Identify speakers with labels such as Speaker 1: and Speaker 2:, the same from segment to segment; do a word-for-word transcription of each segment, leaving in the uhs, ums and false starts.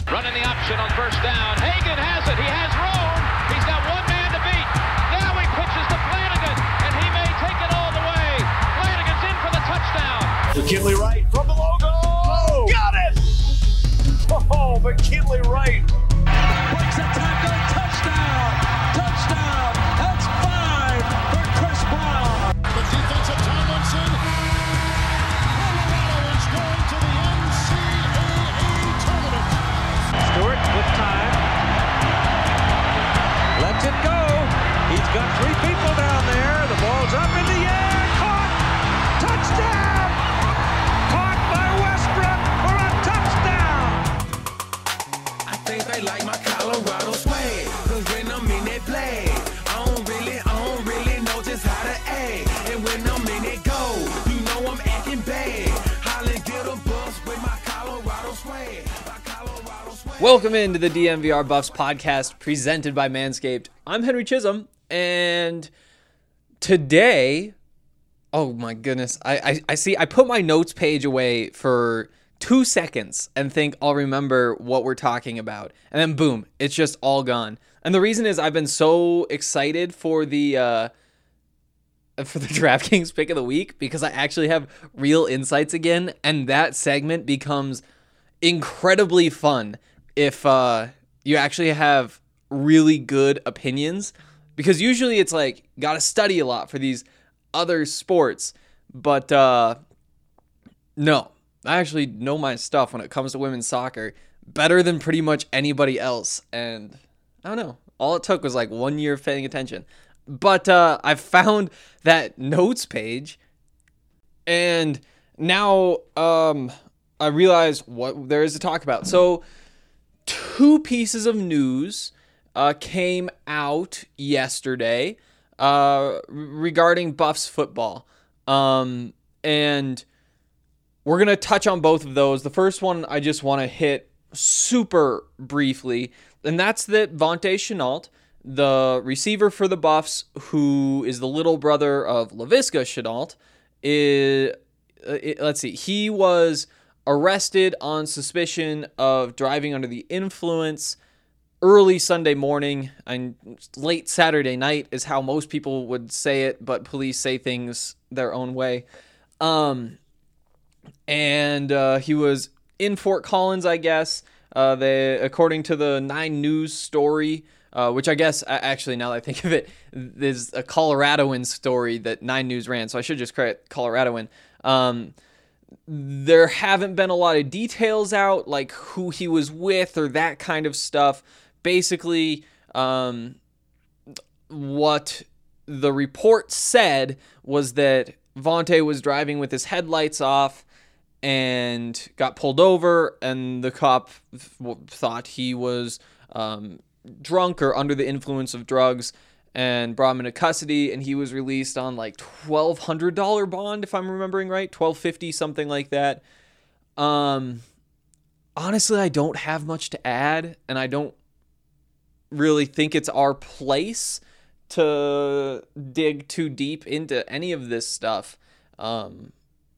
Speaker 1: Running the option on first down. Hagan has it. He has room. He's got one man to beat. Now he pitches to Flanagan, and he may take it all the way. Flanagan's in for the touchdown.
Speaker 2: McKinley Wright from the logo. Oh, got it! Oh, McKinley Wright.
Speaker 3: Breaks a tackle. Touchdown. Touchdown. That's five for Chris Brown.
Speaker 4: The defensive Tomlinson. Colorado is going to the N C double A tournament.
Speaker 3: Stewart with time. Lets it go. He's got three people down there. The ball's up in the air. Caught. Touchdown. Caught by Westbrook for a touchdown.
Speaker 5: I think they like my Colorado swag. Cause when I'm in that play, I don't really, I don't really know just how to act. And when I'm in it go, you know I'm acting bad. Holland get a bus with my Colorado swag. My Colorado swag.
Speaker 6: Welcome into the D M V R Buffs podcast presented by Manscaped. I'm Henry Chisholm, and today, oh my goodness, I, I, I see, I put my notes page away for two seconds and think I'll remember what we're talking about, and then boom, it's just all gone. And the reason is I've been so excited for the uh, for the DraftKings pick of the week because I actually have real insights again, and that segment becomes incredibly fun if uh, you actually have really good opinions, because usually it's like gotta study a lot for these other sports, but uh, no, I actually know my stuff when it comes to women's soccer better than pretty much anybody else, and I don't know, all it took was like one year of paying attention. But uh, I found that notes page, and now um, I realize what there is to talk about. So two pieces of news uh, came out yesterday uh, regarding Buffs football, um, and we're going to touch on both of those. The first one I just want to hit super briefly, and that's that Vontae Shenault, the receiver for the Buffs, who is the little brother of Laviska Shenault, is, uh, it, let's see, he was arrested on suspicion of driving under the influence early Sunday morning, and late Saturday night is how most people would say it, but police say things their own way. Um, and uh, he was in Fort Collins, I guess. Uh, they, according to the Nine News story, uh, which I guess, actually, now that I think of it, there's a Coloradoan story that Nine News ran, so I should just credit Coloradoan. Um, there haven't been a lot of details out, like who he was with or that kind of stuff. Basically, um, what the report said was that Vontae was driving with his headlights off and got pulled over, and the cop th- thought he was um, drunk or under the influence of drugs and brought him into custody, and he was released on like twelve hundred dollars bond, if I'm remembering right, twelve fifty, something like that. Um, honestly, I don't have much to add, and I don't really think it's our place to dig too deep into any of this stuff. Um,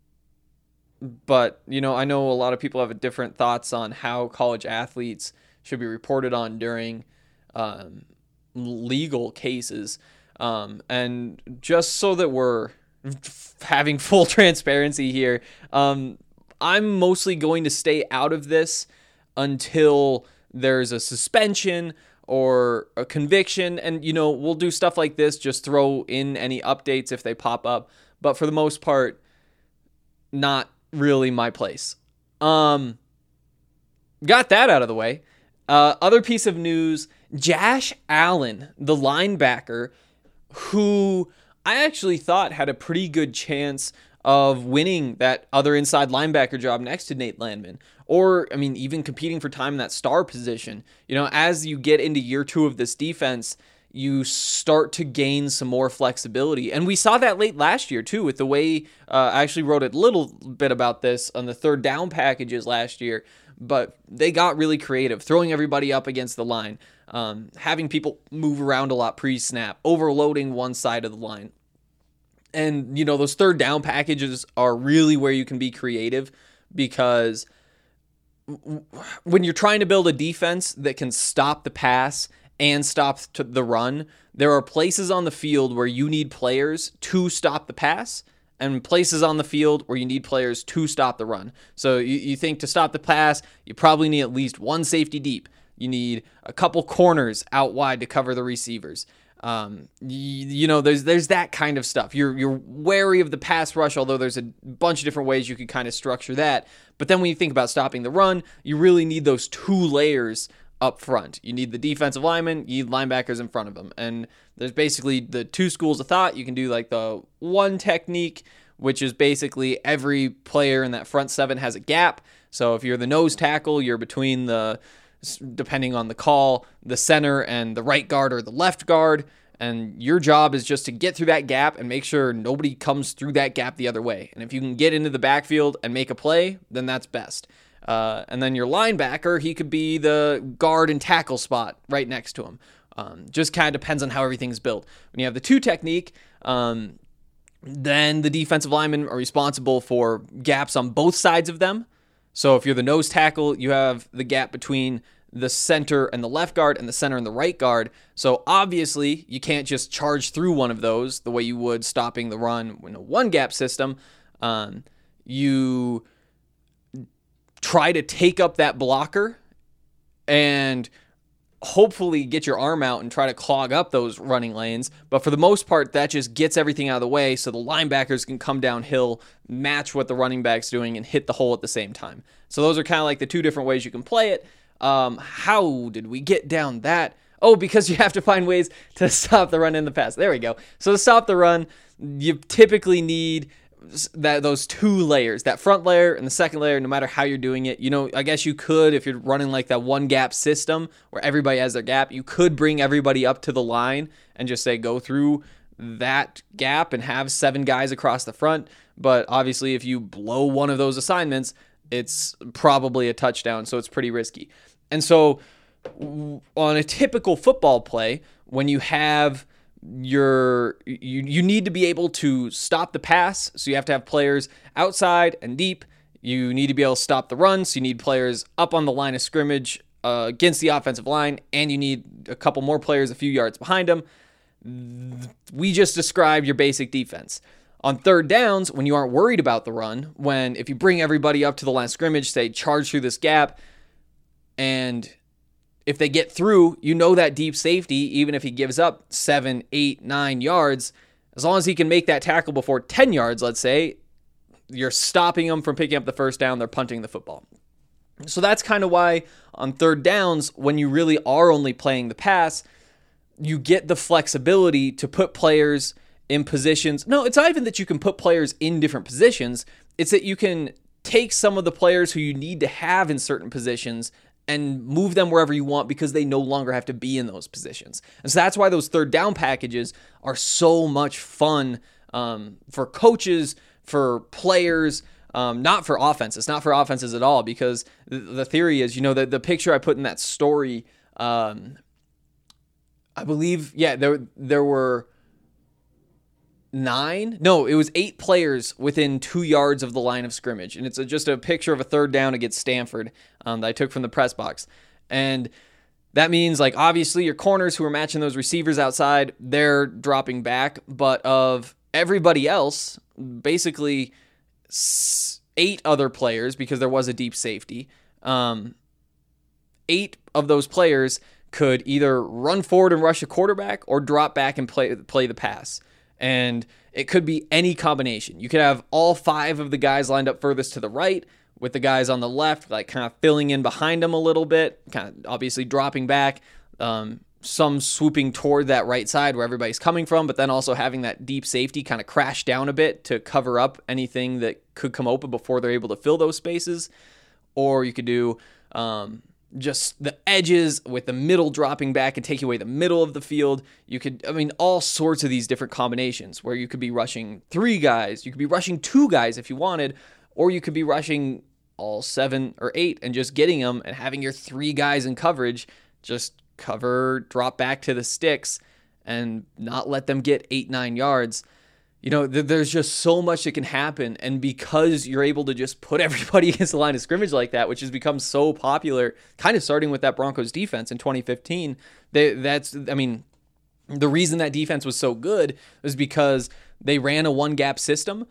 Speaker 6: but, you know, I know a lot of people have different thoughts on how college athletes should be reported on during um, legal cases. Um, and just so that we're having full transparency here, um, I'm mostly going to stay out of this until there's a suspension or a conviction, and, you know, we'll do stuff like this, just throw in any updates if they pop up, but for the most part, not really my place. Um, got that out of the way. Uh, other piece of news, Josh Allen, the linebacker, who I actually thought had a pretty good chance of winning that other inside linebacker job next to Nate Landman, or, I mean, even competing for time in that star position. You know, as you get into year two of this defense, you start to gain some more flexibility. And we saw that late last year, too, with the way, uh, I actually wrote a little bit about this on the third down packages last year, but they got really creative, throwing everybody up against the line, um, having people move around a lot pre-snap, overloading one side of the line. And, you know, those third down packages are really where you can be creative, because when you're trying to build a defense that can stop the pass and stop the run, there are places on the field where you need players to stop the pass and places on the field where you need players to stop the run. So you, you think to stop the pass, you probably need at least one safety deep. You need a couple corners out wide to cover the receivers. Um, you, you know, there's there's that kind of stuff. You're you're wary of the pass rush, although there's a bunch of different ways you could kind of structure that. But then when you think about stopping the run, you really need those two layers up front. You need the defensive linemen, you need linebackers in front of them. And there's basically the two schools of thought. You can do like the one technique, which is basically every player in that front seven has a gap. So if you're the nose tackle, you're between the, depending on the call, the center and the right guard or the left guard. And your job is just to get through that gap and make sure nobody comes through that gap the other way. And if you can get into the backfield and make a play, then that's best. Uh, and then your linebacker, he could be the guard and tackle spot right next to him. Um, just kind of depends on how everything's built. When you have the two technique, um, then the defensive linemen are responsible for gaps on both sides of them. So if you're the nose tackle, you have the gap between the center and the left guard and the center and the right guard. So obviously you can't just charge through one of those the way you would stopping the run in a one gap system. Um, you try to take up that blocker and hopefully get your arm out and try to clog up those running lanes. But for the most part, that just gets everything out of the way so the linebackers can come downhill, match what the running back's doing, and hit the hole at the same time. So those are kind of like the two different ways you can play it. Um, how did we get down that? Oh, because you have to find ways to stop the run in the pass. There we go. So to stop the run, you typically need that those two layers, that front layer and the second layer, no matter how you're doing it. You know, I guess you could, if you're running like that one gap system where everybody has their gap, you could bring everybody up to the line and just say, go through that gap and have seven guys across the front. But obviously if you blow one of those assignments, it's probably a touchdown. So it's pretty risky. And so on a typical football play, when you have You're, you you need to be able to stop the pass, so you have to have players outside and deep. You need to be able to stop the run, so you need players up on the line of scrimmage uh, against the offensive line, and you need a couple more players a few yards behind them. We just described your basic defense. On third downs, when you aren't worried about the run, when if you bring everybody up to the line of scrimmage, say charge through this gap, and if they get through, you know that deep safety, even if he gives up seven, eight, nine yards, as long as he can make that tackle before ten yards, let's say, you're stopping them from picking up the first down, they're punting the football. So that's kind of why on third downs, when you really are only playing the pass, you get the flexibility to put players in positions. No, it's not even that you can put players in different positions. It's that you can take some of the players who you need to have in certain positions and move them wherever you want because they no longer have to be in those positions. And so that's why those third down packages are so much fun um, for coaches, for players, um, not for offenses, not for offenses at all, because the, the theory is, you know, the, the picture I put in that story, um, I believe, yeah, there there were nine, no, it was eight players within two yards of the line of scrimmage. And it's a, just a picture of a third down against Stanford um, that I took from the press box. And that means, like, obviously your corners who are matching those receivers outside, they're dropping back. But of everybody else, basically eight other players, because there was a deep safety, um, eight of those players could either run forward and rush a quarterback or drop back and play play the pass. And it could be any combination. You could have all five of the guys lined up furthest to the right with the guys on the left, like kind of filling in behind them a little bit, kind of obviously dropping back, um, some swooping toward that right side where everybody's coming from, but then also having that deep safety kind of crash down a bit to cover up anything that could come open before they're able to fill those spaces. Or you could do um, just the edges with the middle dropping back and taking away the middle of the field. You could, I mean, all sorts of these different combinations where you could be rushing three guys, you could be rushing two guys if you wanted, or you could be rushing all seven or eight and just getting them and having your three guys in coverage just cover, drop back to the sticks and not let them get eight, nine yards. You know, th- there's just so much that can happen. And because you're able to just put everybody against the line of scrimmage like that, which has become so popular, kind of starting with that Broncos defense in twenty fifteen, they, that's, I mean, the reason that defense was so good was because they ran a one gap system.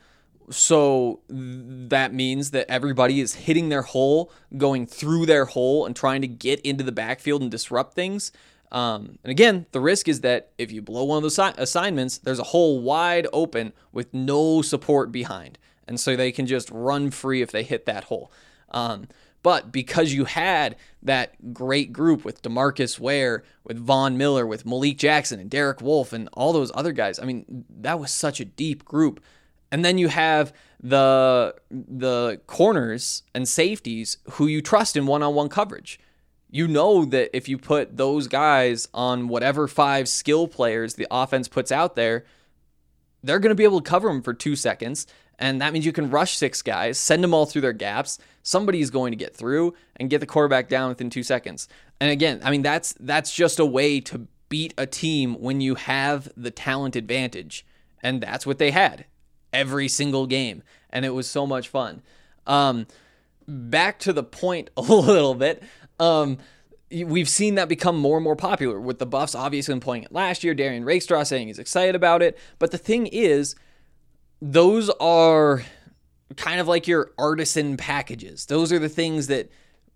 Speaker 6: So that means that everybody is hitting their hole, going through their hole and trying to get into the backfield and disrupt things. Um, and again, the risk is that if you blow one of those assignments, there's a hole wide open with no support behind. And so they can just run free if they hit that hole. Um, but because you had that great group with DeMarcus Ware, with Von Miller, with Malik Jackson and Derek Wolfe and all those other guys, I mean, that was such a deep group. And then you have the the corners and safeties who you trust in one-on-one coverage. You know that if you put those guys on whatever five skill players the offense puts out there, they're going to be able to cover them for two seconds. And that means you can rush six guys, send them all through their gaps. Somebody's going to get through and get the quarterback down within two seconds. And again, I mean, that's that's just a way to beat a team when you have the talent advantage. And that's what they had every single game. And it was so much fun. Um, back to the point a little bit. Um, we've seen that become more and more popular with the Buffs obviously employing it last year. Darian Rakestraw saying he's excited about it. But the thing is, those are kind of like your artisan packages. Those are the things that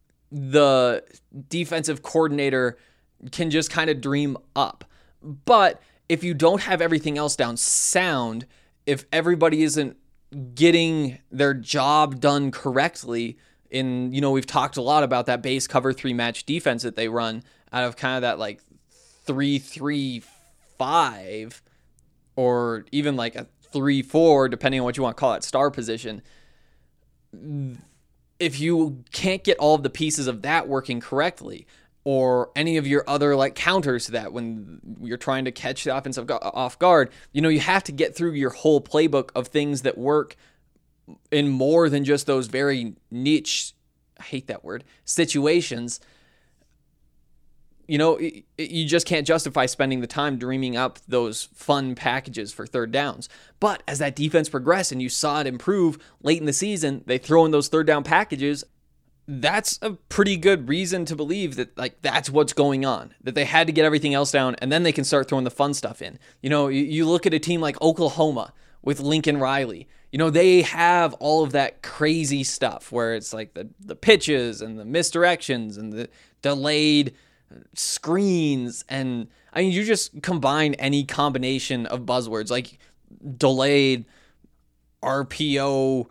Speaker 6: the defensive coordinator can just kind of dream up. But if you don't have everything else down sound, if everybody isn't getting their job done correctly, in, you know, we've talked a lot about that base cover three match defense that they run out of kind of that like three three five or even like a three four, depending on what you want to call it, star position. If you can't get all of the pieces of that working correctly, or any of your other like counters to that when you're trying to catch the offensive off guard, you know, you have to get through your whole playbook of things that work in more than just those very niche, I hate that word, situations. You know, you just can't justify spending the time dreaming up those fun packages for third downs. But as that defense progressed and you saw it improve late in the season, they throw in those third down packages. That's a pretty good reason to believe that, like, that's what's going on, that they had to get everything else down and then they can start throwing the fun stuff in. You know, you, you look at a team like Oklahoma with Lincoln Riley. You know, they have all of that crazy stuff where it's like the, the pitches and the misdirections and the delayed screens. And I mean, you just combine any combination of buzzwords like delayed R P O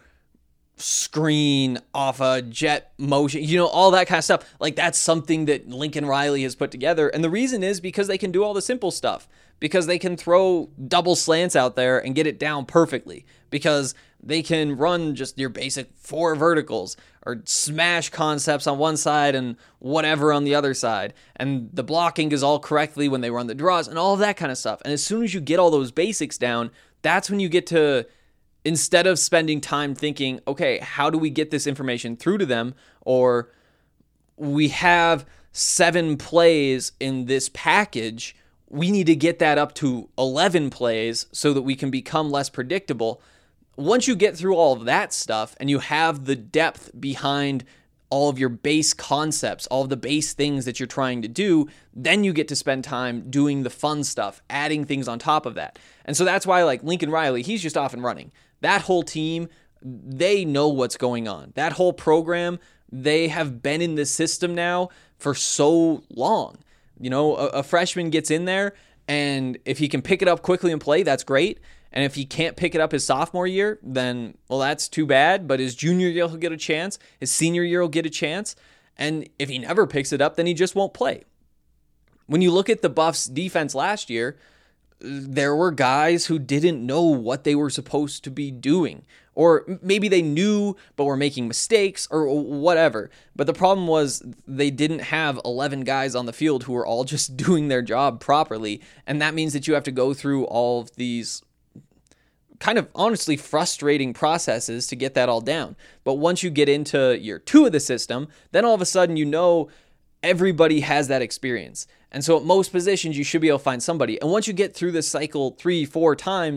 Speaker 6: screen off a jet motion, you know, all that kind of stuff. Like, that's something that Lincoln Riley has put together. And the reason is because they can do all the simple stuff, because they can throw double slants out there and get it down perfectly, because they can run just your basic four verticals or smash concepts on one side and whatever on the other side. And the blocking is all correctly when they run the draws and all of that kind of stuff. And as soon as you get all those basics down, that's when you get to, instead of spending time thinking, okay, how do we get this information through to them? Or we have seven plays in this package, we need to get that up to eleven plays so that we can become less predictable. Once you get through all of that stuff and you have the depth behind all of your base concepts, all of the base things that you're trying to do, then you get to spend time doing the fun stuff, adding things on top of that. And so that's why, like, Lincoln Riley, he's just off and running. That whole team, they know what's going on. That whole program, they have been in this system now for so long. You know, a, a freshman gets in there, and if he can pick it up quickly and play, that's great. And if he can't pick it up his sophomore year, then, well, that's too bad. But his junior year, he'll get a chance. His senior year, he'll get a chance. And if he never picks it up, then he just won't play. When you look at the Buffs' defense last year, there were guys who didn't know what they were supposed to be doing. Or maybe they knew, but were making mistakes or whatever. But the problem was they didn't have eleven guys on the field who were all just doing their job properly. And that means that you have to go through all of these kind of honestly frustrating processes to get that all down. But once you get into year two of the system, then all of a sudden you know everybody has that experience. And so at most positions, you should be able to find somebody. And once you get through this cycle three, four times,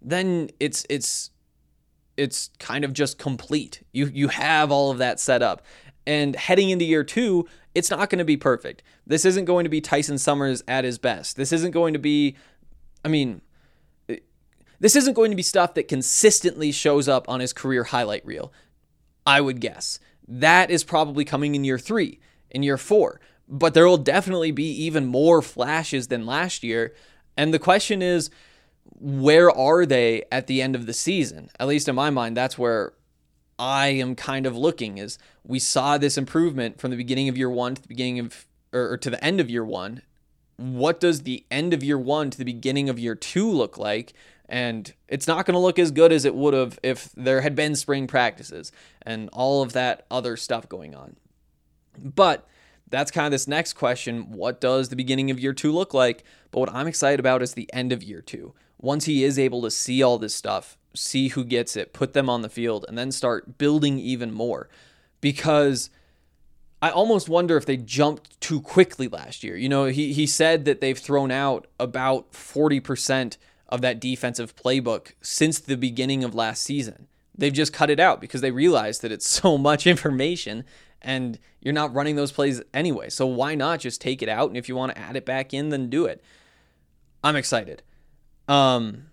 Speaker 6: then it's it's it's kind of just complete. You you have all of that set up. And heading into year two, it's not going to be perfect. This isn't going to be Tyson Summers at his best. This isn't going to be, I mean, this isn't going to be stuff that consistently shows up on his career highlight reel, I would guess. That is probably coming in year three, in year four. But there will definitely be even more flashes than last year. And the question is, where are they at the end of the season? At least in my mind, that's where I am kind of looking, is we saw this improvement from the beginning of year one to the beginning of, or, or to the end of year one. What does the end of year one to the beginning of year two look like? And it's not going to look as good as it would have if there had been spring practices and all of that other stuff going on. But that's kind of this next question. What does the beginning of year two look like? But what I'm excited about is the end of year two. Once he is able to see all this stuff, see who gets it, put them on the field, and then start building even more. Because I almost wonder if they jumped too quickly last year. You know, he he said that they've thrown out about forty percent of that defensive playbook since the beginning of last season. They've just cut it out because they realized that it's so much information and you're not running those plays anyway. So why not just take it out? And if you want to add it back in, then do it. I'm excited. Um,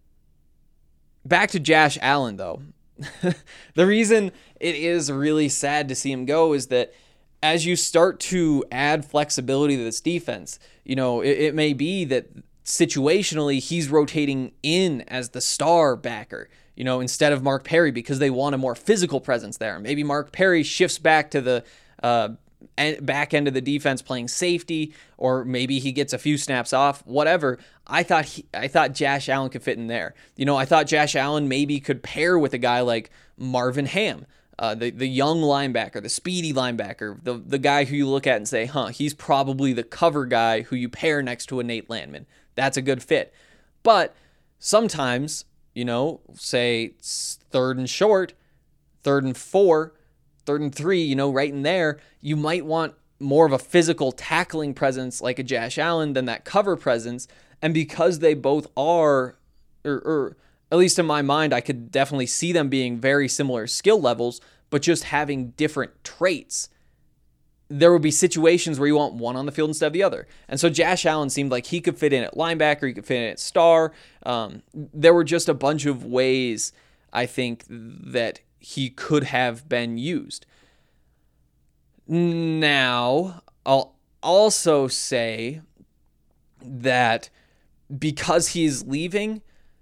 Speaker 6: back to Josh Allen, though. The reason it is really sad to see him go is that as you start to add flexibility to this defense, you know, it, it may be that situationally he's rotating in as the star backer, you know, instead of Mark Perry, because they want a more physical presence there. Maybe Mark Perry shifts back to the uh, back end of the defense playing safety, or maybe he gets a few snaps off, whatever. I thought he, I thought Josh Allen could fit in there. You know, I thought Josh Allen maybe could pair with a guy like Marvin Ham, uh, the, the young linebacker, the speedy linebacker, the, the guy who you look at and say, huh, he's probably the cover guy who you pair next to a Nate Landman. That's a good fit. But sometimes, you know, say it's third and short, third and four, third and three, you know, right in there, you might want more of a physical tackling presence like a Josh Allen than that cover presence. And because they both are, or, or at least in my mind, I could definitely see them being very similar skill levels, but just having different traits, there would be situations where you want one on the field instead of the other. And so Josh Allen seemed like he could fit in at linebacker, he could fit in at star. Um, there were just a bunch of ways, I think, that he could have been used. Now, I'll also say that because he's leaving,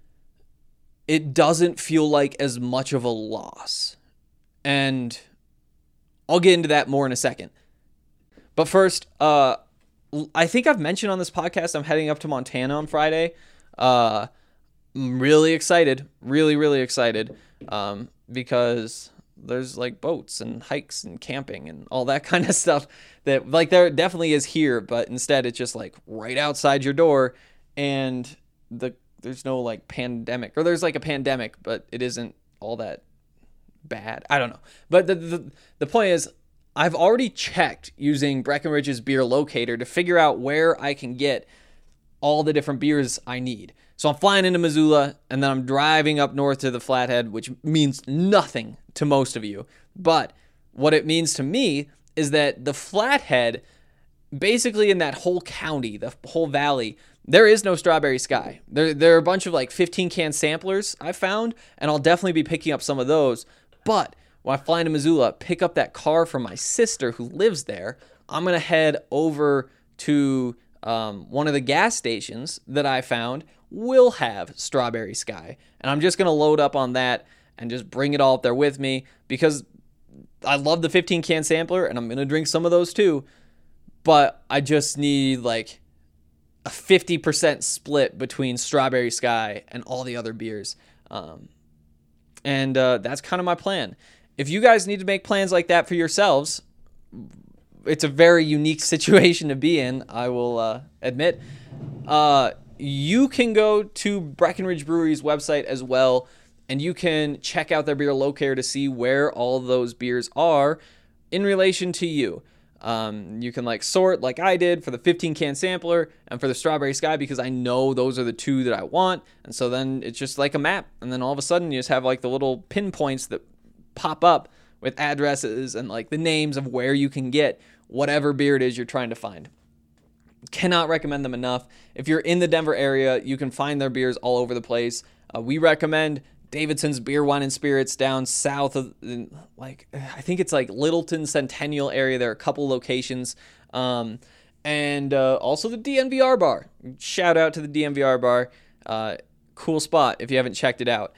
Speaker 6: it doesn't feel like as much of a loss. And I'll get into that more in a second. But first, uh, I think I've mentioned on this podcast I'm heading up to Montana on Friday. Uh, I'm really excited, really, really excited, um, because there's like boats and hikes and camping and all that kind of stuff that like there definitely is here, but instead it's just like right outside your door, and the there's no like pandemic, or there's like a pandemic, but it isn't all that bad. I don't know. But the the, the point is, I've already checked using Breckenridge's beer locator to figure out where I can get all the different beers I need. So I'm flying into Missoula, and then I'm driving up north to the Flathead, which means nothing to most of you. But what it means to me is that the Flathead, basically in that whole county, the whole valley, there is no Strawberry Sky. There, there are a bunch of like fifteen can samplers I found, and I'll definitely be picking up some of those. But when I fly into Missoula, pick up that car from my sister who lives there, I'm going to head over to um, one of the gas stations that I found will have Strawberry Sky. And I'm just going to load up on that and just bring it all up there with me, because I love the fifteen can sampler and I'm going to drink some of those too. But I just need like a fifty percent split between Strawberry Sky and all the other beers. Um, and uh, that's kind of my plan. If you guys need to make plans like that for yourselves, it's a very unique situation to be in, I will uh, admit. Uh, you can go to Breckenridge Brewery's website as well, and you can check out their beer locator to see where all those beers are in relation to you. Um, you can like sort like I did for the fifteen can sampler and for the Strawberry Sky because I know those are the two that I want. And so then it's just like a map. And then all of a sudden you just have like the little pinpoints that pop up with addresses and like the names of where you can get whatever beer it is you're trying to find. Cannot recommend them enough. If you're in the Denver area, you can find their beers all over the place. Uh, we recommend Davidson's Beer, Wine, and Spirits down south of, like, I think it's like Littleton Centennial area. There are a couple locations. Um, and uh, also the D N V R bar. Shout out to the D N V R bar. Uh, cool spot if you haven't checked it out.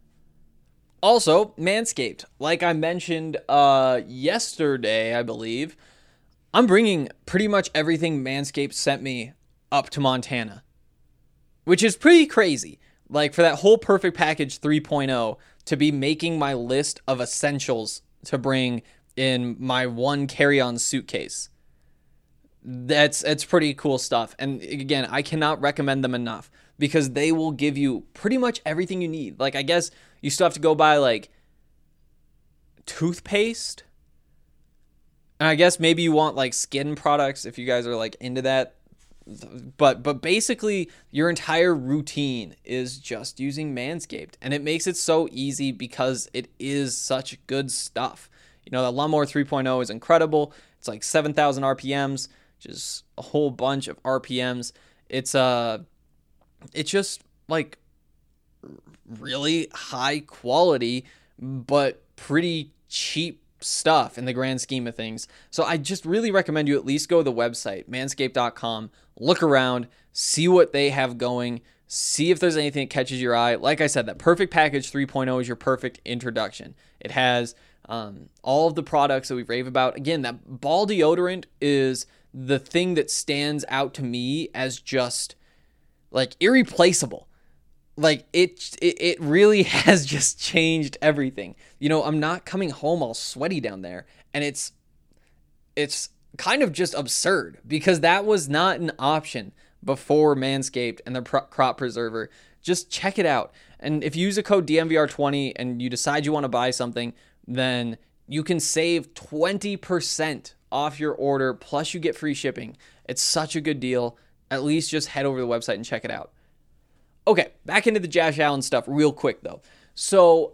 Speaker 6: Also, Manscaped. Like I mentioned uh, yesterday, I believe, I'm bringing pretty much everything Manscaped sent me up to Montana, which is pretty crazy. Like, for that whole Perfect Package three point oh to be making my list of essentials to bring in my one carry-on suitcase. That's that's pretty cool stuff. And again, I cannot recommend them enough because they will give you pretty much everything you need. Like, I guess you still have to go buy, like, toothpaste. And I guess maybe you want, like, skin products if you guys are, like, into that. But but basically, your entire routine is just using Manscaped. And it makes it so easy because it is such good stuff. You know, the Lawnmower three point oh is incredible. It's like seven thousand R P Ms, which is a whole bunch of R P Ms. It's, uh, it's just, like, really high quality, but pretty cheap stuff in the grand scheme of things. So I just really recommend you at least go to the website, manscaped dot com, look around, see what they have going, see if there's anything that catches your eye. Like I said, that Perfect Package three point oh is your perfect introduction. It has um, all of the products that we rave about. Again, that ball deodorant is the thing that stands out to me as just like irreplaceable. Like, it, it it really has just changed everything. You know, I'm not coming home all sweaty down there. And it's it's kind of just absurd because that was not an option before Manscaped and the pro- crop preserver. Just check it out. And if you use a code D N V R twenty and you decide you want to buy something, then you can save twenty percent off your order, plus you get free shipping. It's such a good deal. At least just head over to the website and check it out. Okay, back into the Josh Allen stuff real quick, though. So,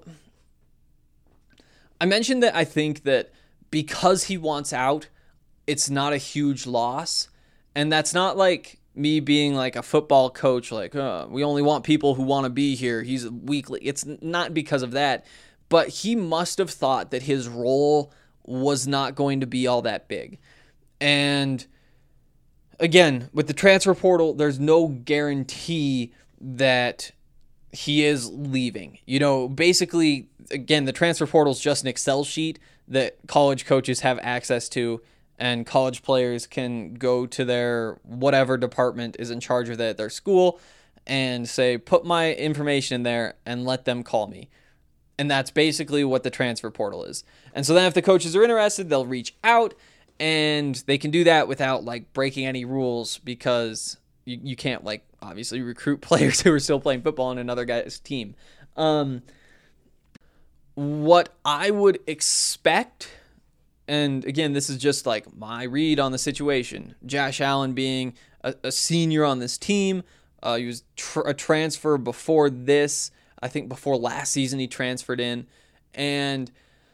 Speaker 6: I mentioned that I think that because he wants out, it's not a huge loss. And that's not like me being like a football coach, like, oh, we only want people who want to be here. He's weakly. It's not because of that. But he must have thought that his role was not going to be all that big. And again, with the transfer portal, there's no guarantee that he is leaving. You know, basically, again, the transfer portal is just an Excel sheet that college coaches have access to, and college players can go to their whatever department is in charge of that at their school and say, put my information in there and let them call me. And that's basically what the transfer portal is. And so then if the coaches are interested, they'll reach out, and they can do that without like breaking any rules because you, you can't like obviously recruit players who are still playing football on another guy's team. Um, what I would expect, and again, this is just like my read on the situation, Josh Allen being a, a senior on this team, uh, he was tr- a transfer before this, I think before last season he transferred in, and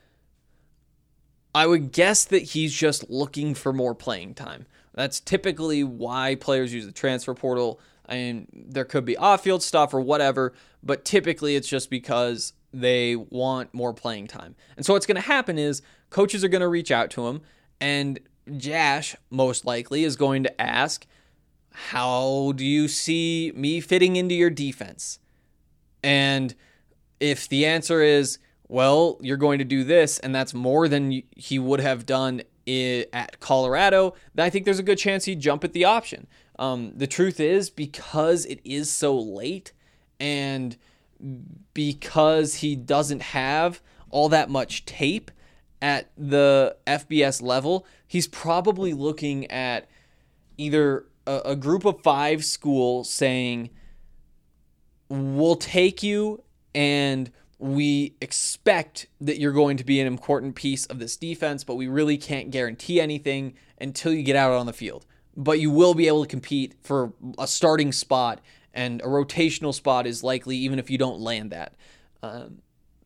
Speaker 6: I would guess that he's just looking for more playing time. That's typically why players use the transfer portal. I mean, there could be off-field stuff or whatever, but typically it's just because they want more playing time. And so what's going to happen is coaches are going to reach out to him, and Josh, most likely, is going to ask, how do you see me fitting into your defense? And if the answer is, well, you're going to do this, and that's more than he would have done at Colorado, then I think there's a good chance he'd jump at the option. Um, the truth is, because it is so late, and because he doesn't have all that much tape at the F B S level, he's probably looking at either a, a group of five school saying, we'll take you and we expect that you're going to be an important piece of this defense, but we really can't guarantee anything until you get out on the field. But you will be able to compete for a starting spot, and a rotational spot is likely even if you don't land that. Um,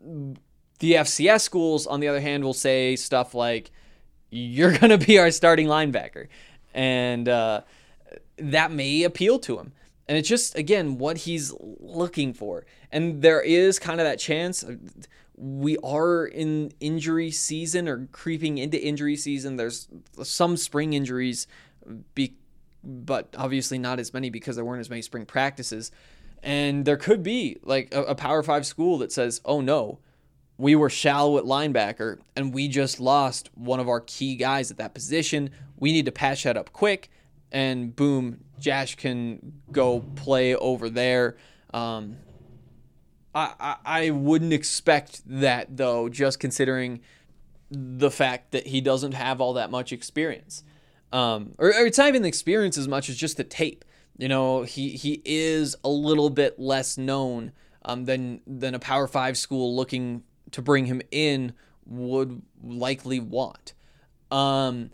Speaker 6: the F C S schools, on the other hand, will say stuff like, you're going to be our starting linebacker. And uh, that may appeal to him. And it's just, again, what he's looking for. And there is kind of that chance. We are in injury season or creeping into injury season. There's some spring injuries, be, but obviously not as many because there weren't as many spring practices. And there could be like a, a Power Five school that says, oh no, we were shallow at linebacker and we just lost one of our key guys at that position. We need to patch that up quick. And boom, Josh can go play over there. Um, I, I I wouldn't expect that, though, just considering the fact that he doesn't have all that much experience. Um, or, or it's not even the experience as much as just the tape. You know, he, he is a little bit less known um, than than a Power Five school looking to bring him in would likely want. Um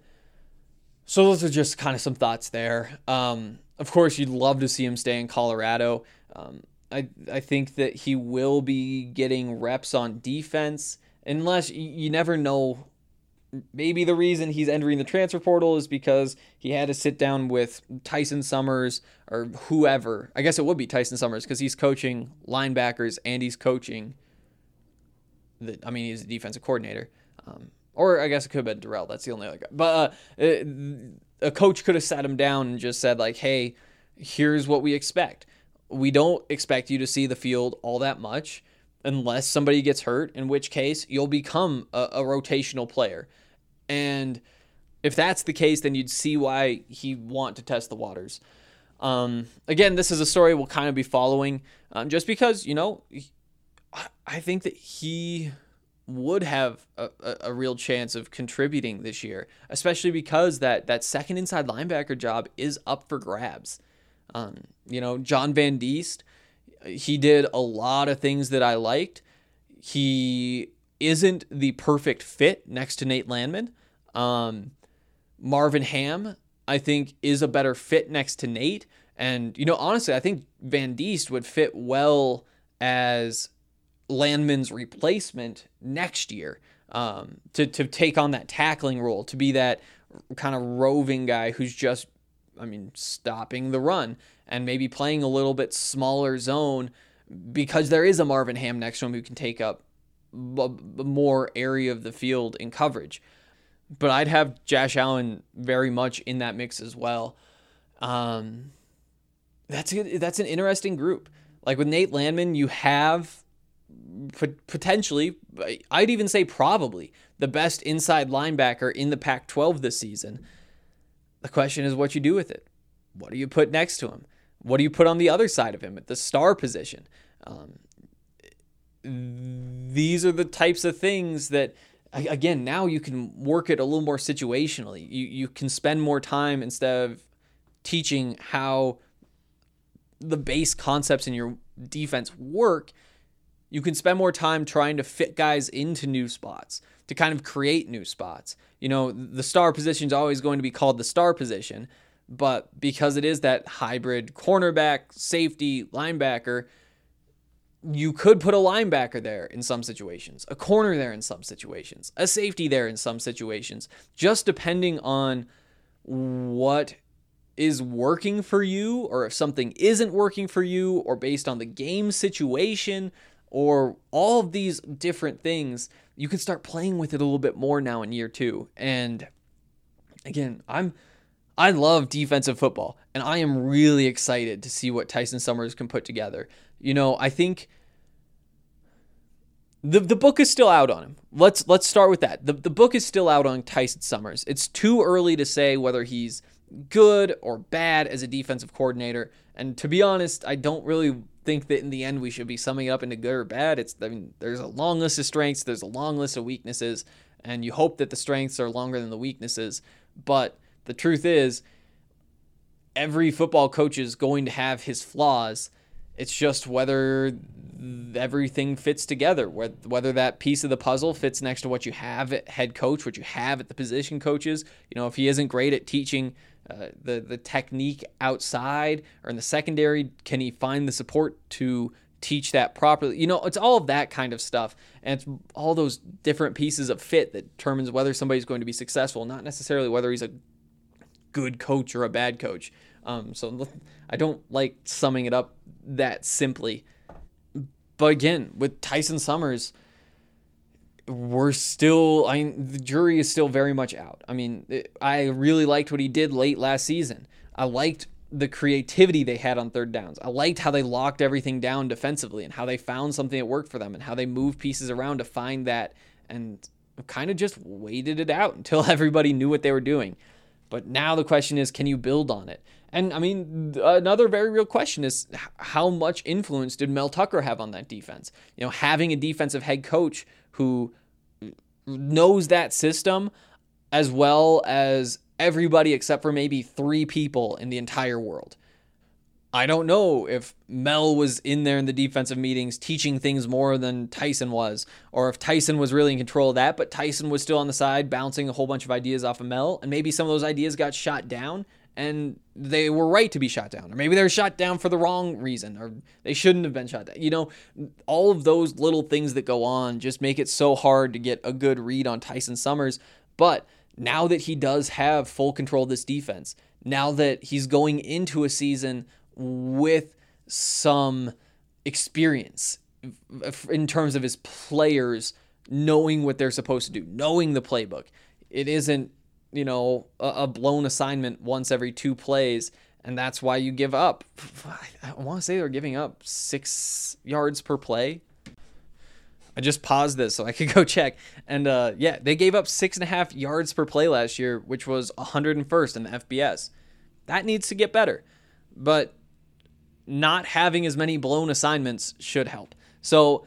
Speaker 6: So those are just kind of some thoughts there. Um, of course, you'd love to see him stay in Colorado. Um, I I think that he will be getting reps on defense, unless you, you never know. Maybe the reason he's entering the transfer portal is because he had to sit down with Tyson Summers or whoever. I guess it would be Tyson Summers because he's coaching linebackers and he's coaching. The, I mean, he's a defensive coordinator. Um, Or I guess it could have been Darrell. That's the only other guy. But uh, a coach could have sat him down and just said, like, hey, here's what we expect. We don't expect you to see the field all that much unless somebody gets hurt, in which case you'll become a, a rotational player. And if that's the case, then you'd see why he'd want to test the waters. Um, again, this is a story we'll kind of be following um, just because, you know, I think that he would have a, a, a real chance of contributing this year, especially because that, that second inside linebacker job is up for grabs. Um, you know, John Van Diest, he did a lot of things that I liked. He isn't the perfect fit next to Nate Landman. Um, Marvin Ham, I think, is a better fit next to Nate. And, you know, honestly, I think Van Diest would fit well as Landman's replacement next year, um, to, to take on that tackling role, to be that kind of roving guy who's just, I mean, stopping the run and maybe playing a little bit smaller zone because there is a Marvin Ham next to him who can take up b- more area of the field in coverage. But I'd have Josh Allen very much in that mix as well. Um, that's a, that's an interesting group. Like with Nate Landman, you have potentially, I'd even say probably, the best inside linebacker in the Pac twelve this season. The question is what you do with it. What do you put next to him? What do you put on the other side of him at the star position? Um, these are the types of things that, again, now you can work it a little more situationally. You you can spend more time instead of teaching how the base concepts in your defense work. You can spend more time trying to fit guys into new spots, to kind of create new spots. You know, the star position is always going to be called the star position, but because it is that hybrid cornerback, safety, linebacker, you could put a linebacker there in some situations, a corner there in some situations, a safety there in some situations, just depending on what is working for you, or if something isn't working for you, or based on the game situation, or all of these different things. You can start playing with it a little bit more now in year two. And again, I'm I love defensive football, and I am really excited to see what Tyson Summers can put together. You know, I think the the book is still out on him. Let's let's start with that. The the book is still out on Tyson Summers. It's too early to say whether he's good or bad as a defensive coordinator. And to be honest, I don't really think that in the end we should be summing it up into good or bad. It's I mean, there's a long list of strengths, there's a long list of weaknesses, and you hope that the strengths are longer than the weaknesses. But the truth is, every football coach is going to have his flaws. It's just whether everything fits together, whether that piece of the puzzle fits next to what you have at head coach, what you have at the position coaches. You know, if he isn't great at teaching uh, the, the technique outside or in the secondary, can he find the support to teach that properly? You know, it's all of that kind of stuff. And it's all those different pieces of fit that determines whether somebody's going to be successful, not necessarily whether he's a good coach or a bad coach. Um, so I don't like summing it up that simply. But again, with Tyson Summers, we're still, I mean, the jury is still very much out. I mean, it, I really liked what he did late last season. I liked the creativity they had on third downs. I liked how they locked everything down defensively and how they found something that worked for them and how they moved pieces around to find that, and kind of just waited it out until everybody knew what they were doing. But now the question is, can you build on it? And I mean, another very real question is, how much influence did Mel Tucker have on that defense? You know, having a defensive head coach who knows that system as well as everybody except for maybe three people in the entire world. I don't know if Mel was in there in the defensive meetings teaching things more than Tyson was, or if Tyson was really in control of that, but Tyson was still on the side bouncing a whole bunch of ideas off of Mel, and maybe some of those ideas got shot down, and they were right to be shot down, or maybe they were shot down for the wrong reason, or they shouldn't have been shot down. You know, all of those little things that go on just make it so hard to get a good read on Tyson Summers. But now that he does have full control of this defense, now that he's going into a season with some experience in terms of his players knowing what they're supposed to do, knowing the playbook, it isn't, you know, a blown assignment once every two plays, and that's why you give up. I want to say they're giving up six yards per play. I just paused this so I could go check. And uh, yeah, they gave up six and a half yards per play last year, which was one hundred first in the F B S. That needs to get better. But not having as many blown assignments should help. So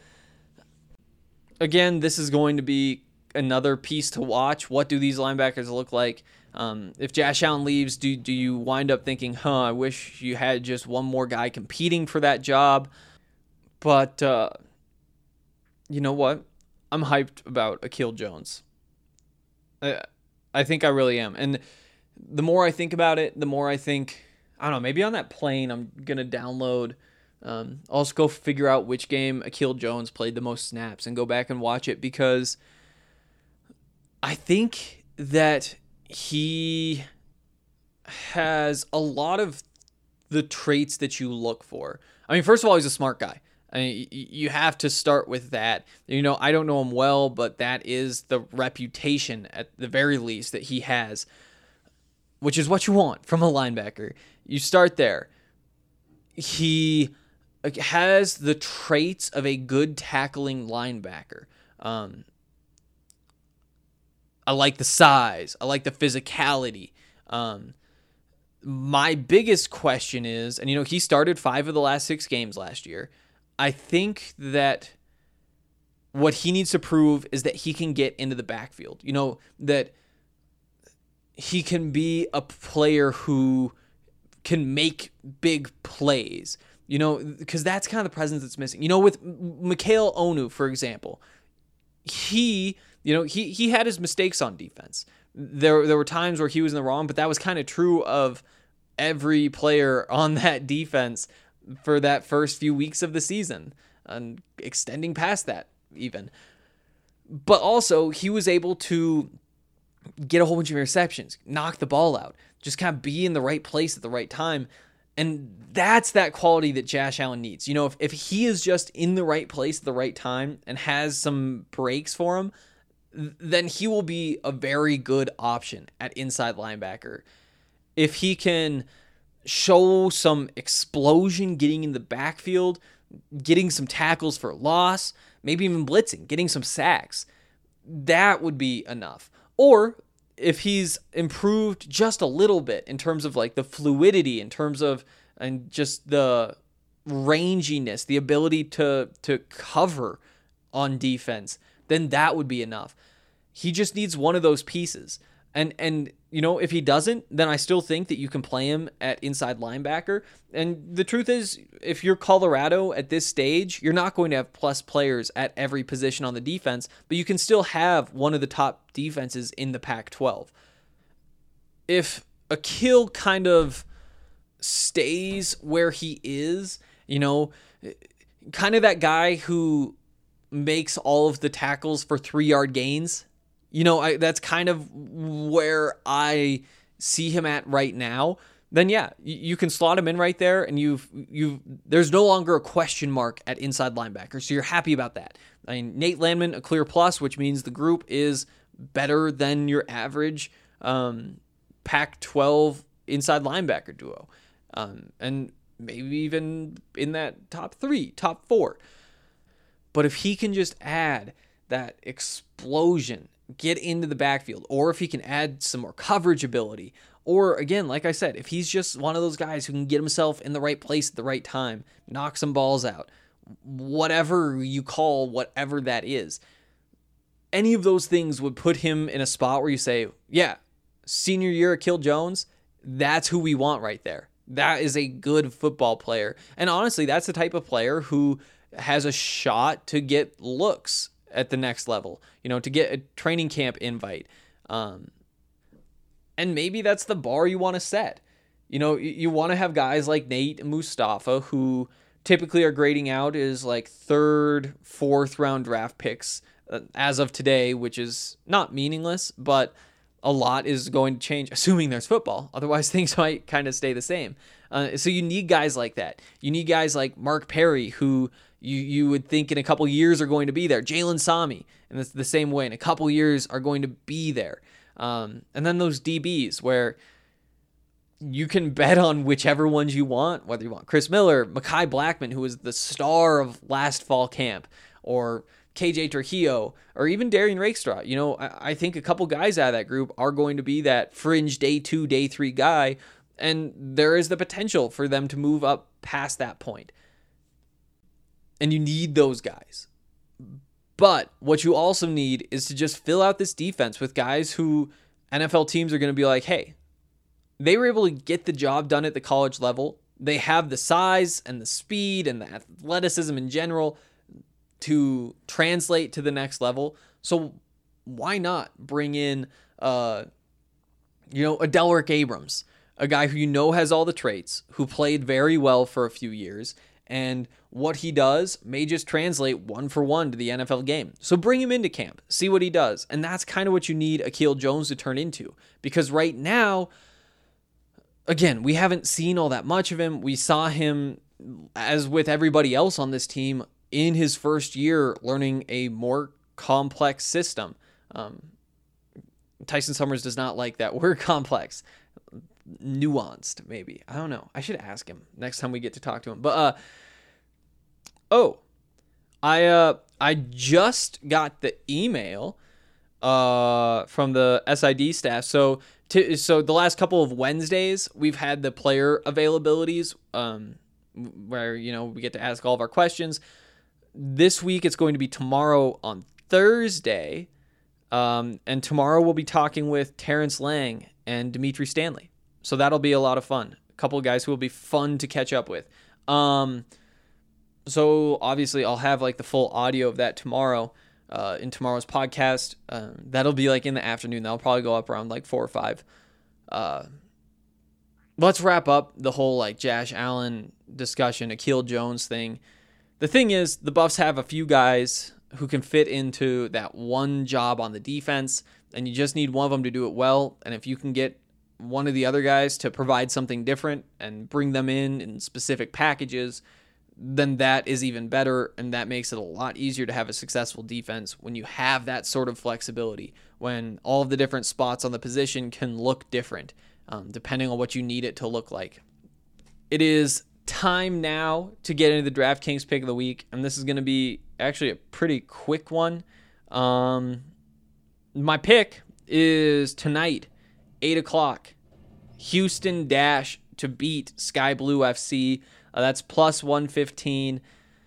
Speaker 6: again, this is going to be another piece to watch. What do these linebackers look like? Um, if Josh Allen leaves, do do you wind up thinking, huh, I wish you had just one more guy competing for that job? But uh, you know what? I'm hyped about Akil Jones. I, I think I really am. And the more I think about it, the more I think, I don't know, maybe on that plane I'm going to download, um, I'll just go figure out which game Akil Jones played the most snaps and go back and watch it, because I think that he has a lot of the traits that you look for. I mean, first of all, he's a smart guy. I mean, you have to start with that. You know, I don't know him well, but that is the reputation, at the very least, that he has, which is what you want from a linebacker. You start there. He has the traits of a good tackling linebacker. Um, I like the size. I like the physicality. Um, my biggest question is, and you know, he started five of the last six games last year. I think that what he needs to prove is that he can get into the backfield. You know, that he can be a player who can make big plays, you know, because that's kind of the presence that's missing. You know, with Mikhail Onu, for example, he, you know, he he had his mistakes on defense. There, there were times where he was in the wrong, but that was kind of true of every player on that defense for that first few weeks of the season, and extending past that even. But also, he was able to get a whole bunch of interceptions, knock the ball out, just kind of be in the right place at the right time. And that's that quality that Josh Allen needs. You know, if, if he is just in the right place at the right time and has some breaks for him, then he will be a very good option at inside linebacker. If he can show some explosion getting in the backfield, getting some tackles for loss, maybe even blitzing, getting some sacks, that would be enough. Or if he's improved just a little bit in terms of like the fluidity, in terms of and just the ranginess, the ability to to cover on defense, then that would be enough. He just needs one of those pieces. And, and you know, if he doesn't, then I still think that you can play him at inside linebacker. And the truth is, if you're Colorado at this stage, you're not going to have plus players at every position on the defense, but you can still have one of the top defenses in the Pac twelve. If Akil kind of stays where he is, you know, kind of that guy who makes all of the tackles for three-yard gains, you know, I, that's kind of where I see him at right now, then yeah, you, you can slot him in right there, and you've you've there's no longer a question mark at inside linebacker, so you're happy about that. I mean, Nate Landman, a clear plus, which means the group is better than your average um, Pac twelve inside linebacker duo, um, and maybe even in that top three, top four. But if he can just add that explosion, get into the backfield, or if he can add some more coverage ability, or again, like I said, if he's just one of those guys who can get himself in the right place at the right time, knock some balls out, whatever you call whatever that is, any of those things would put him in a spot where you say, yeah, senior year Akil Jones, that's who we want right there. That is a good football player. And honestly, that's the type of player who has a shot to get looks at the next level, you know, to get a training camp invite. Um, and maybe that's the bar you want to set. You know, you, you want to have guys like Nate and Mustafa who typically are grading out as like third, fourth round draft picks uh, as of today, which is not meaningless, but a lot is going to change, assuming there's football. Otherwise, things might kind of stay the same. Uh, so you need guys like that. You need guys like Mark Perry, who you you would think in a couple years are going to be there. Jalen Sami, and it's the same way. In a couple years are going to be there. Um, and then those D Bs where you can bet on whichever ones you want, whether you want Chris Miller, Mekhi Blackman, who was the star of last fall camp, or K J Trujillo, or even Darian Rakestraw. You know, I, I think a couple guys out of that group are going to be that fringe day two, day three guy, and there is the potential for them to move up past that point. And you need those guys. But what you also need is to just fill out this defense with guys who N F L teams are going to be like, hey, they were able to get the job done at the college level. They have the size and the speed and the athleticism in general to translate to the next level. So why not bring in, uh, you know, a Delrick Abrams, a guy who you know has all the traits, who played very well for a few years, and what he does may just translate one for one to the N F L game. So bring him into camp, see what he does. And that's kind of what you need Akil Jones to turn into. Because right now, again, we haven't seen all that much of him. We saw him, as with everybody else on this team, in his first year learning a more complex system. Um, Tyson Summers does not like that word complex. Nuanced, maybe. I don't know. I should ask him next time we get to talk to him. But, uh, oh, I, uh, I just got the email, uh, from the S I D staff. So, to, so the last couple of Wednesdays, we've had the player availabilities, um, where, you know, we get to ask all of our questions. This week, it's going to be tomorrow on Thursday. Um, and tomorrow we'll be talking with Terrence Lang and Dimitri Stanley. So that'll be a lot of fun. A couple of guys who will be fun to catch up with. Um, so obviously I'll have like the full audio of that tomorrow uh, in tomorrow's podcast. Um, that'll be like in the afternoon. That'll probably go up around like four or five. Uh, let's wrap up the whole like Josh Allen discussion, Akil Jones thing. The thing is, the Buffs have a few guys who can fit into that one job on the defense, and you just need one of them to do it well. And if you can get one of the other guys to provide something different and bring them in in specific packages, then that is even better, and that makes it a lot easier to have a successful defense when you have that sort of flexibility, when all of the different spots on the position can look different, um, depending on what you need it to look like. It is time now to get into the DraftKings pick of the week, and this is going to be actually a pretty quick one. Um, my pick is tonight, eight o'clock, Houston Dash to beat Sky Blue F C. Uh, that's plus one fifteen.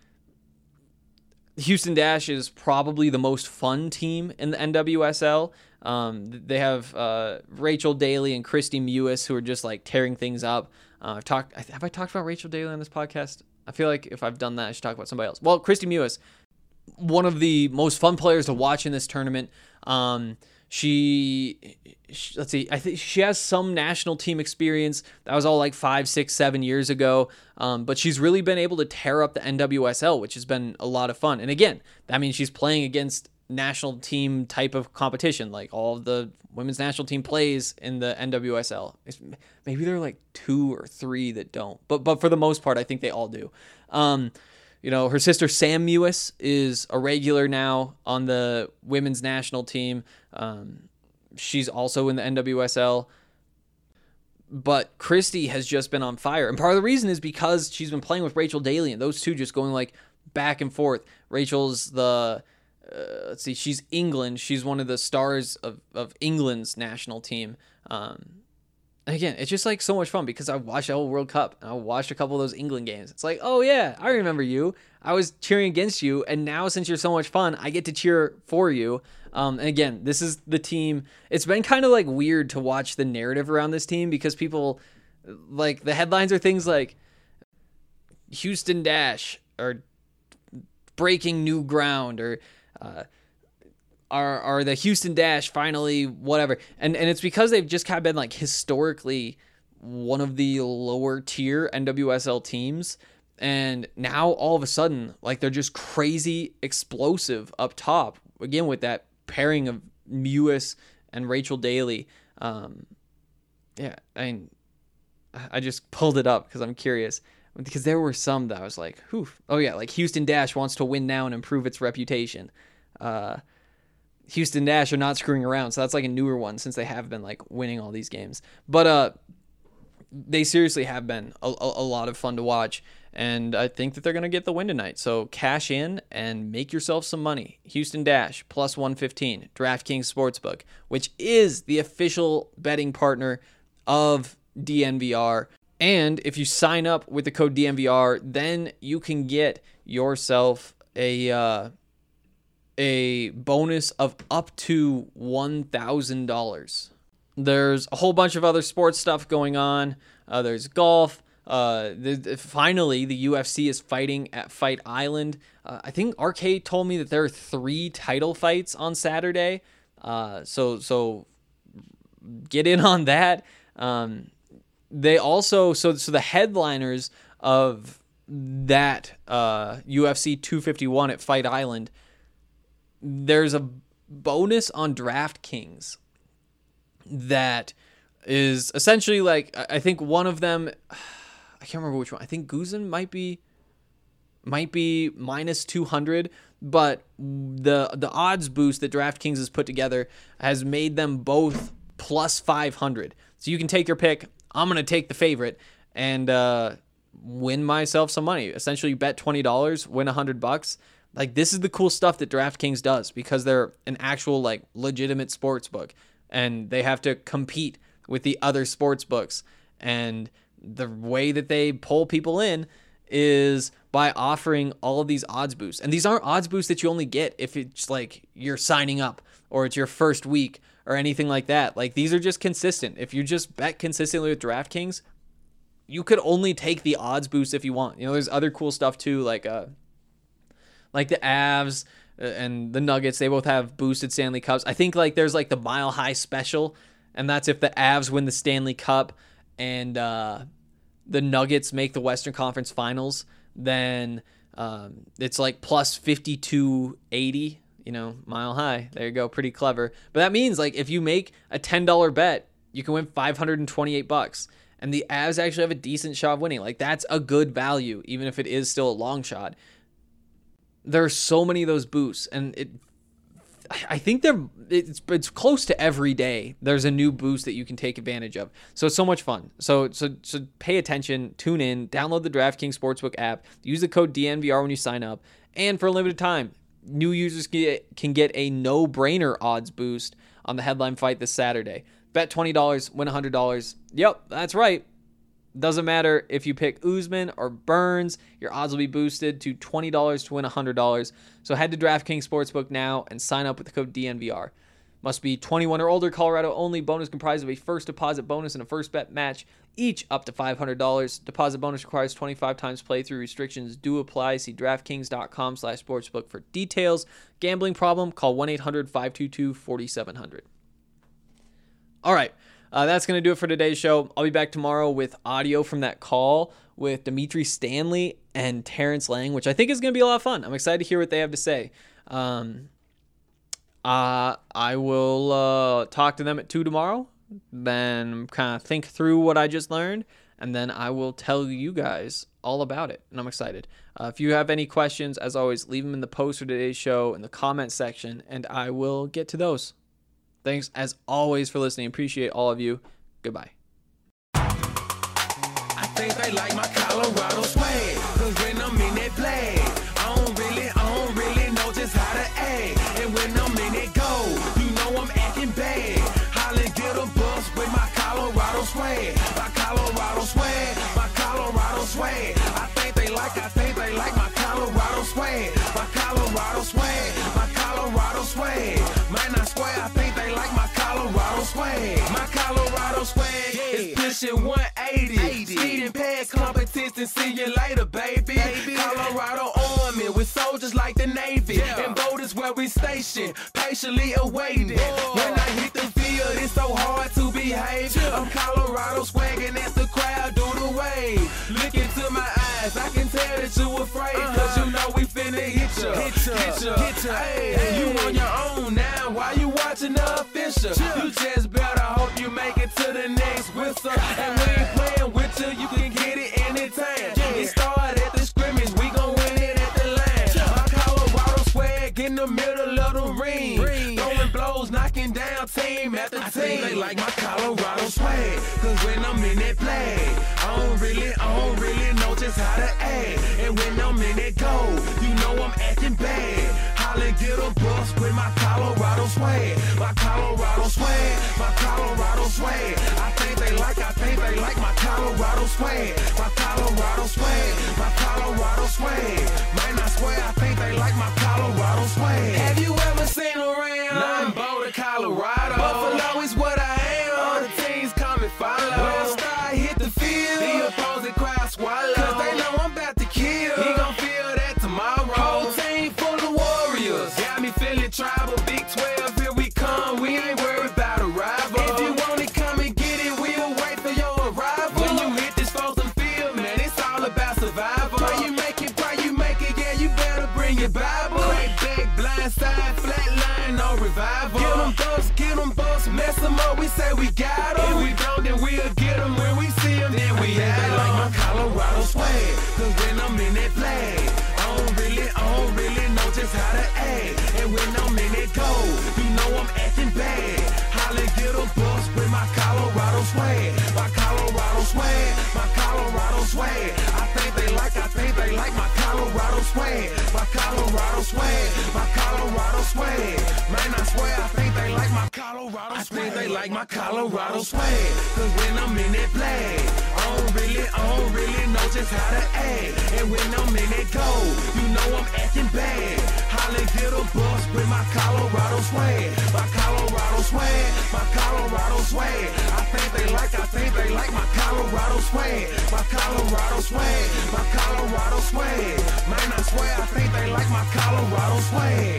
Speaker 6: Houston Dash is probably the most fun team in the N W S L. Um, they have uh, Rachel Daly and Christy Mewis, who are just like tearing things up. Uh, I've talked. Have I talked about Rachel Daly on this podcast? I feel like if I've done that, I should talk about somebody else. Well, Christy Mewis, one of the most fun players to watch in this tournament. Um, she, she, let's see, I think she has some national team experience. That was all like five, six, seven years ago. Um, but she's really been able to tear up the N W S L, which has been a lot of fun. And again, that means she's playing against national team type of competition. Like all of the women's national team plays in the N W S L. It's, maybe there are like two or three that don't, but but for the most part, I think they all do. Um, you know, her sister Sam Mewis is a regular now on the women's national team. Um, she's also in the N W S L. But Christy has just been on fire. And part of the reason is because she's been playing with Rachel Daly, and those two just going like back and forth. Rachel's the, uh, let's see, she's England. She's one of the stars of, of England's national team. Um, and again, it's just like so much fun because I watched the whole World Cup and I watched a couple of those England games. It's like, oh yeah, I remember you. I was cheering against you. And now since you're so much fun, I get to cheer for you. Um, and again, this is the team. It's been kind of like weird to watch the narrative around this team because people like the headlines are things like Houston Dash or breaking new ground or, uh, Are are the Houston Dash finally whatever, and and it's because they've just kind of been like historically one of the lower tier N W S L teams, and now all of a sudden like they're just crazy explosive up top again with that pairing of Mewis and Rachel Daly. Um, yeah, I mean, I just pulled it up because I'm curious because there were some that I was like, whew. Oh yeah, like Houston Dash wants to win now and improve its reputation. Uh. Houston Dash are not screwing around, so that's like a newer one since they have been like winning all these games. But uh, they seriously have been a, a, a lot of fun to watch, and I think that they're gonna get the win tonight. So cash in and make yourself some money. Houston Dash plus one fifteen, DraftKings Sportsbook, which is the official betting partner of D N V R. And if you sign up with the code D N V R, then you can get yourself a. Uh, a bonus of up to one thousand dollars. There's a whole bunch of other sports stuff going on. Uh, there's golf. Uh, the, the, finally, the U F C is fighting at Fight Island. Uh, I think R K told me that there are three title fights on Saturday. Uh, so so get in on that. Um, they also so so the headliners of that uh, U F C two fifty-one at Fight Island. There's a bonus on DraftKings that is essentially like, I think one of them, I can't remember which one. I think Guzan might be, might be minus two hundred, but the, the odds boost that DraftKings has put together has made them both plus five hundred. So you can take your pick. I'm going to take the favorite and uh, win myself some money. Essentially bet twenty dollars, win a hundred bucks. Like, this is the cool stuff that DraftKings does because they're an actual, like, legitimate sports book. And they have to compete with the other sports books. And the way that they pull people in is by offering all of these odds boosts. And these aren't odds boosts that you only get if it's, like, you're signing up or it's your first week or anything like that. Like, these are just consistent. If you just bet consistently with DraftKings, you could only take the odds boost if you want. You know, there's other cool stuff, too, like... uh. Like the Avs and the Nuggets, they both have boosted Stanley Cups. I think like there's like the Mile High Special, and that's if the Avs win the Stanley Cup and uh, the Nuggets make the Western Conference Finals, then um, it's like plus fifty-two eighty, you know, Mile High. There you go, pretty clever. But that means like if you make a ten dollars bet, you can win five hundred twenty-eight bucks. And the Avs actually have a decent shot of winning. Like that's a good value, even if it is still a long shot. There are so many of those boosts, and it, I think they're it's it's close to every day. There's a new boost that you can take advantage of. So it's so much fun. So so so pay attention, tune in, download the DraftKings Sportsbook app, use the code D N V R when you sign up, and for a limited time, new users can get a no-brainer odds boost on the headline fight this Saturday. Bet twenty dollars, win one hundred dollars. Yep, that's right. Doesn't matter if you pick Usman or Burns, your odds will be boosted to twenty dollars to win one hundred dollars. So head to DraftKings Sportsbook now and sign up with the code D N V R. Must be twenty-one or older. Colorado only. Bonus comprised of a first deposit bonus and a first bet match, each up to five hundred dollars. Deposit bonus requires twenty-five times playthrough. Restrictions do apply. See DraftKings.com slash sportsbook for details. Gambling problem? Call one eight hundred five two two four seven zero zero. All right. Uh, that's going to do it for today's show. I'll be back tomorrow with audio from that call with Dimitri Stanley and Terrence Lang, which I think is going to be a lot of fun. I'm excited to hear what they have to say. Um... Uh, I will uh, talk to them at two tomorrow, then kind of think through what I just learned, and then I will tell you guys all about it, and I'm excited. Uh, if you have any questions, as always, leave them in the post for today's show in the comment section, and I will get to those. Thanks, as always, for listening. Appreciate all of you. Goodbye.
Speaker 5: I think they like my Colorado swag, 'cause when I'm in that play, I don't really, I don't really know just how to act. And when I'm in it go, you know I'm acting bad. Holla, get a bus with my Colorado swag, my Colorado swag, my Colorado swag. I think they like, I think they like my Colorado swag, my Colorado swag, my Colorado swag. Man, I swear, I think they like my Colorado swag, my Colorado swag. It's pushing one eighty, speeding past competition. See you later, baby. baby. Colorado Army with soldiers like the Navy, yeah. And boat is where we station, patiently awaiting. Whoa. When I hit the field, it's so hard to behave. Yeah. I'm Colorado swagging as the crowd do the wave. Look into my eyes, I can tell that you afraid, uh-huh. 'Cause you know we finna hit ya, hit ya, hit ya. Hit ya. Hey, hey. You on your own now, why you watching the official? Yeah. You just better hope you make it to the next whistle. And we ain't playing with you, you can get it anytime. Yeah. It started at the scrimmage, we gon' win it at the line. Yeah. My Colorado swag in the middle of the ring, ring. Throwing blows, knocking down team after I team. Think they like my Colorado swag, 'cause when I'm in that play, I don't really, I don't really know just how to act. And when I'm in that go, you know I'm acting bad. Holla, get a bus with my Colorado swag, my Colorado swag, my Colorado swag. I think they like, I think they like my Colorado swag, my Colorado swag, my Colorado swag. Man, I swear, I think they like my Colorado swag. Have you ever seen around? Nothing but Colorado. Buffalo is what I am. All the teams come and follow. When I start hit the field, the opposing crowd swallow, 'cause they know I'm about to kill. He gon' feel that tomorrow. Whole team full of warriors. Got me feeling tribal. Big twelve, here we come. We ain't worried about a rival. If you want it, come and get it. We'll wait for your arrival. When you hit this frozen field, man, it's all about survival. Pray you make it, pray you make it. Yeah, you better bring your Bible. Crack back, blind side, flat line, no revival. Get them bucks, get them bucks, mess them up. We say we got them. If we don't, then we'll get them. When we see them, then we have them. They like my Colorado swag, 'cause when I'm in that flag, I don't really, I don't really know just how to act. And when I'm in that go, you know I'm acting bad. Holla, get a bus with my Colorado swag, my Colorado swag, my Colorado swag. I think they like, I think they like my Colorado swag, my Colorado swag, my Colorado swag. Man, I swear, I think they like my Colorado swag. I think they like my Colorado swag, 'cause when I'm in that flag, I don't really, I don't really know just how to act. And when I'm in that go, you know I'm acting bad. Holla, get a bus with my Colorado swag, my Colorado swag, my Colorado swag. I think they like, I think they like my Colorado swag, my Colorado swag, my Colorado swag. Man, I swear, I think they like my Colorado swag.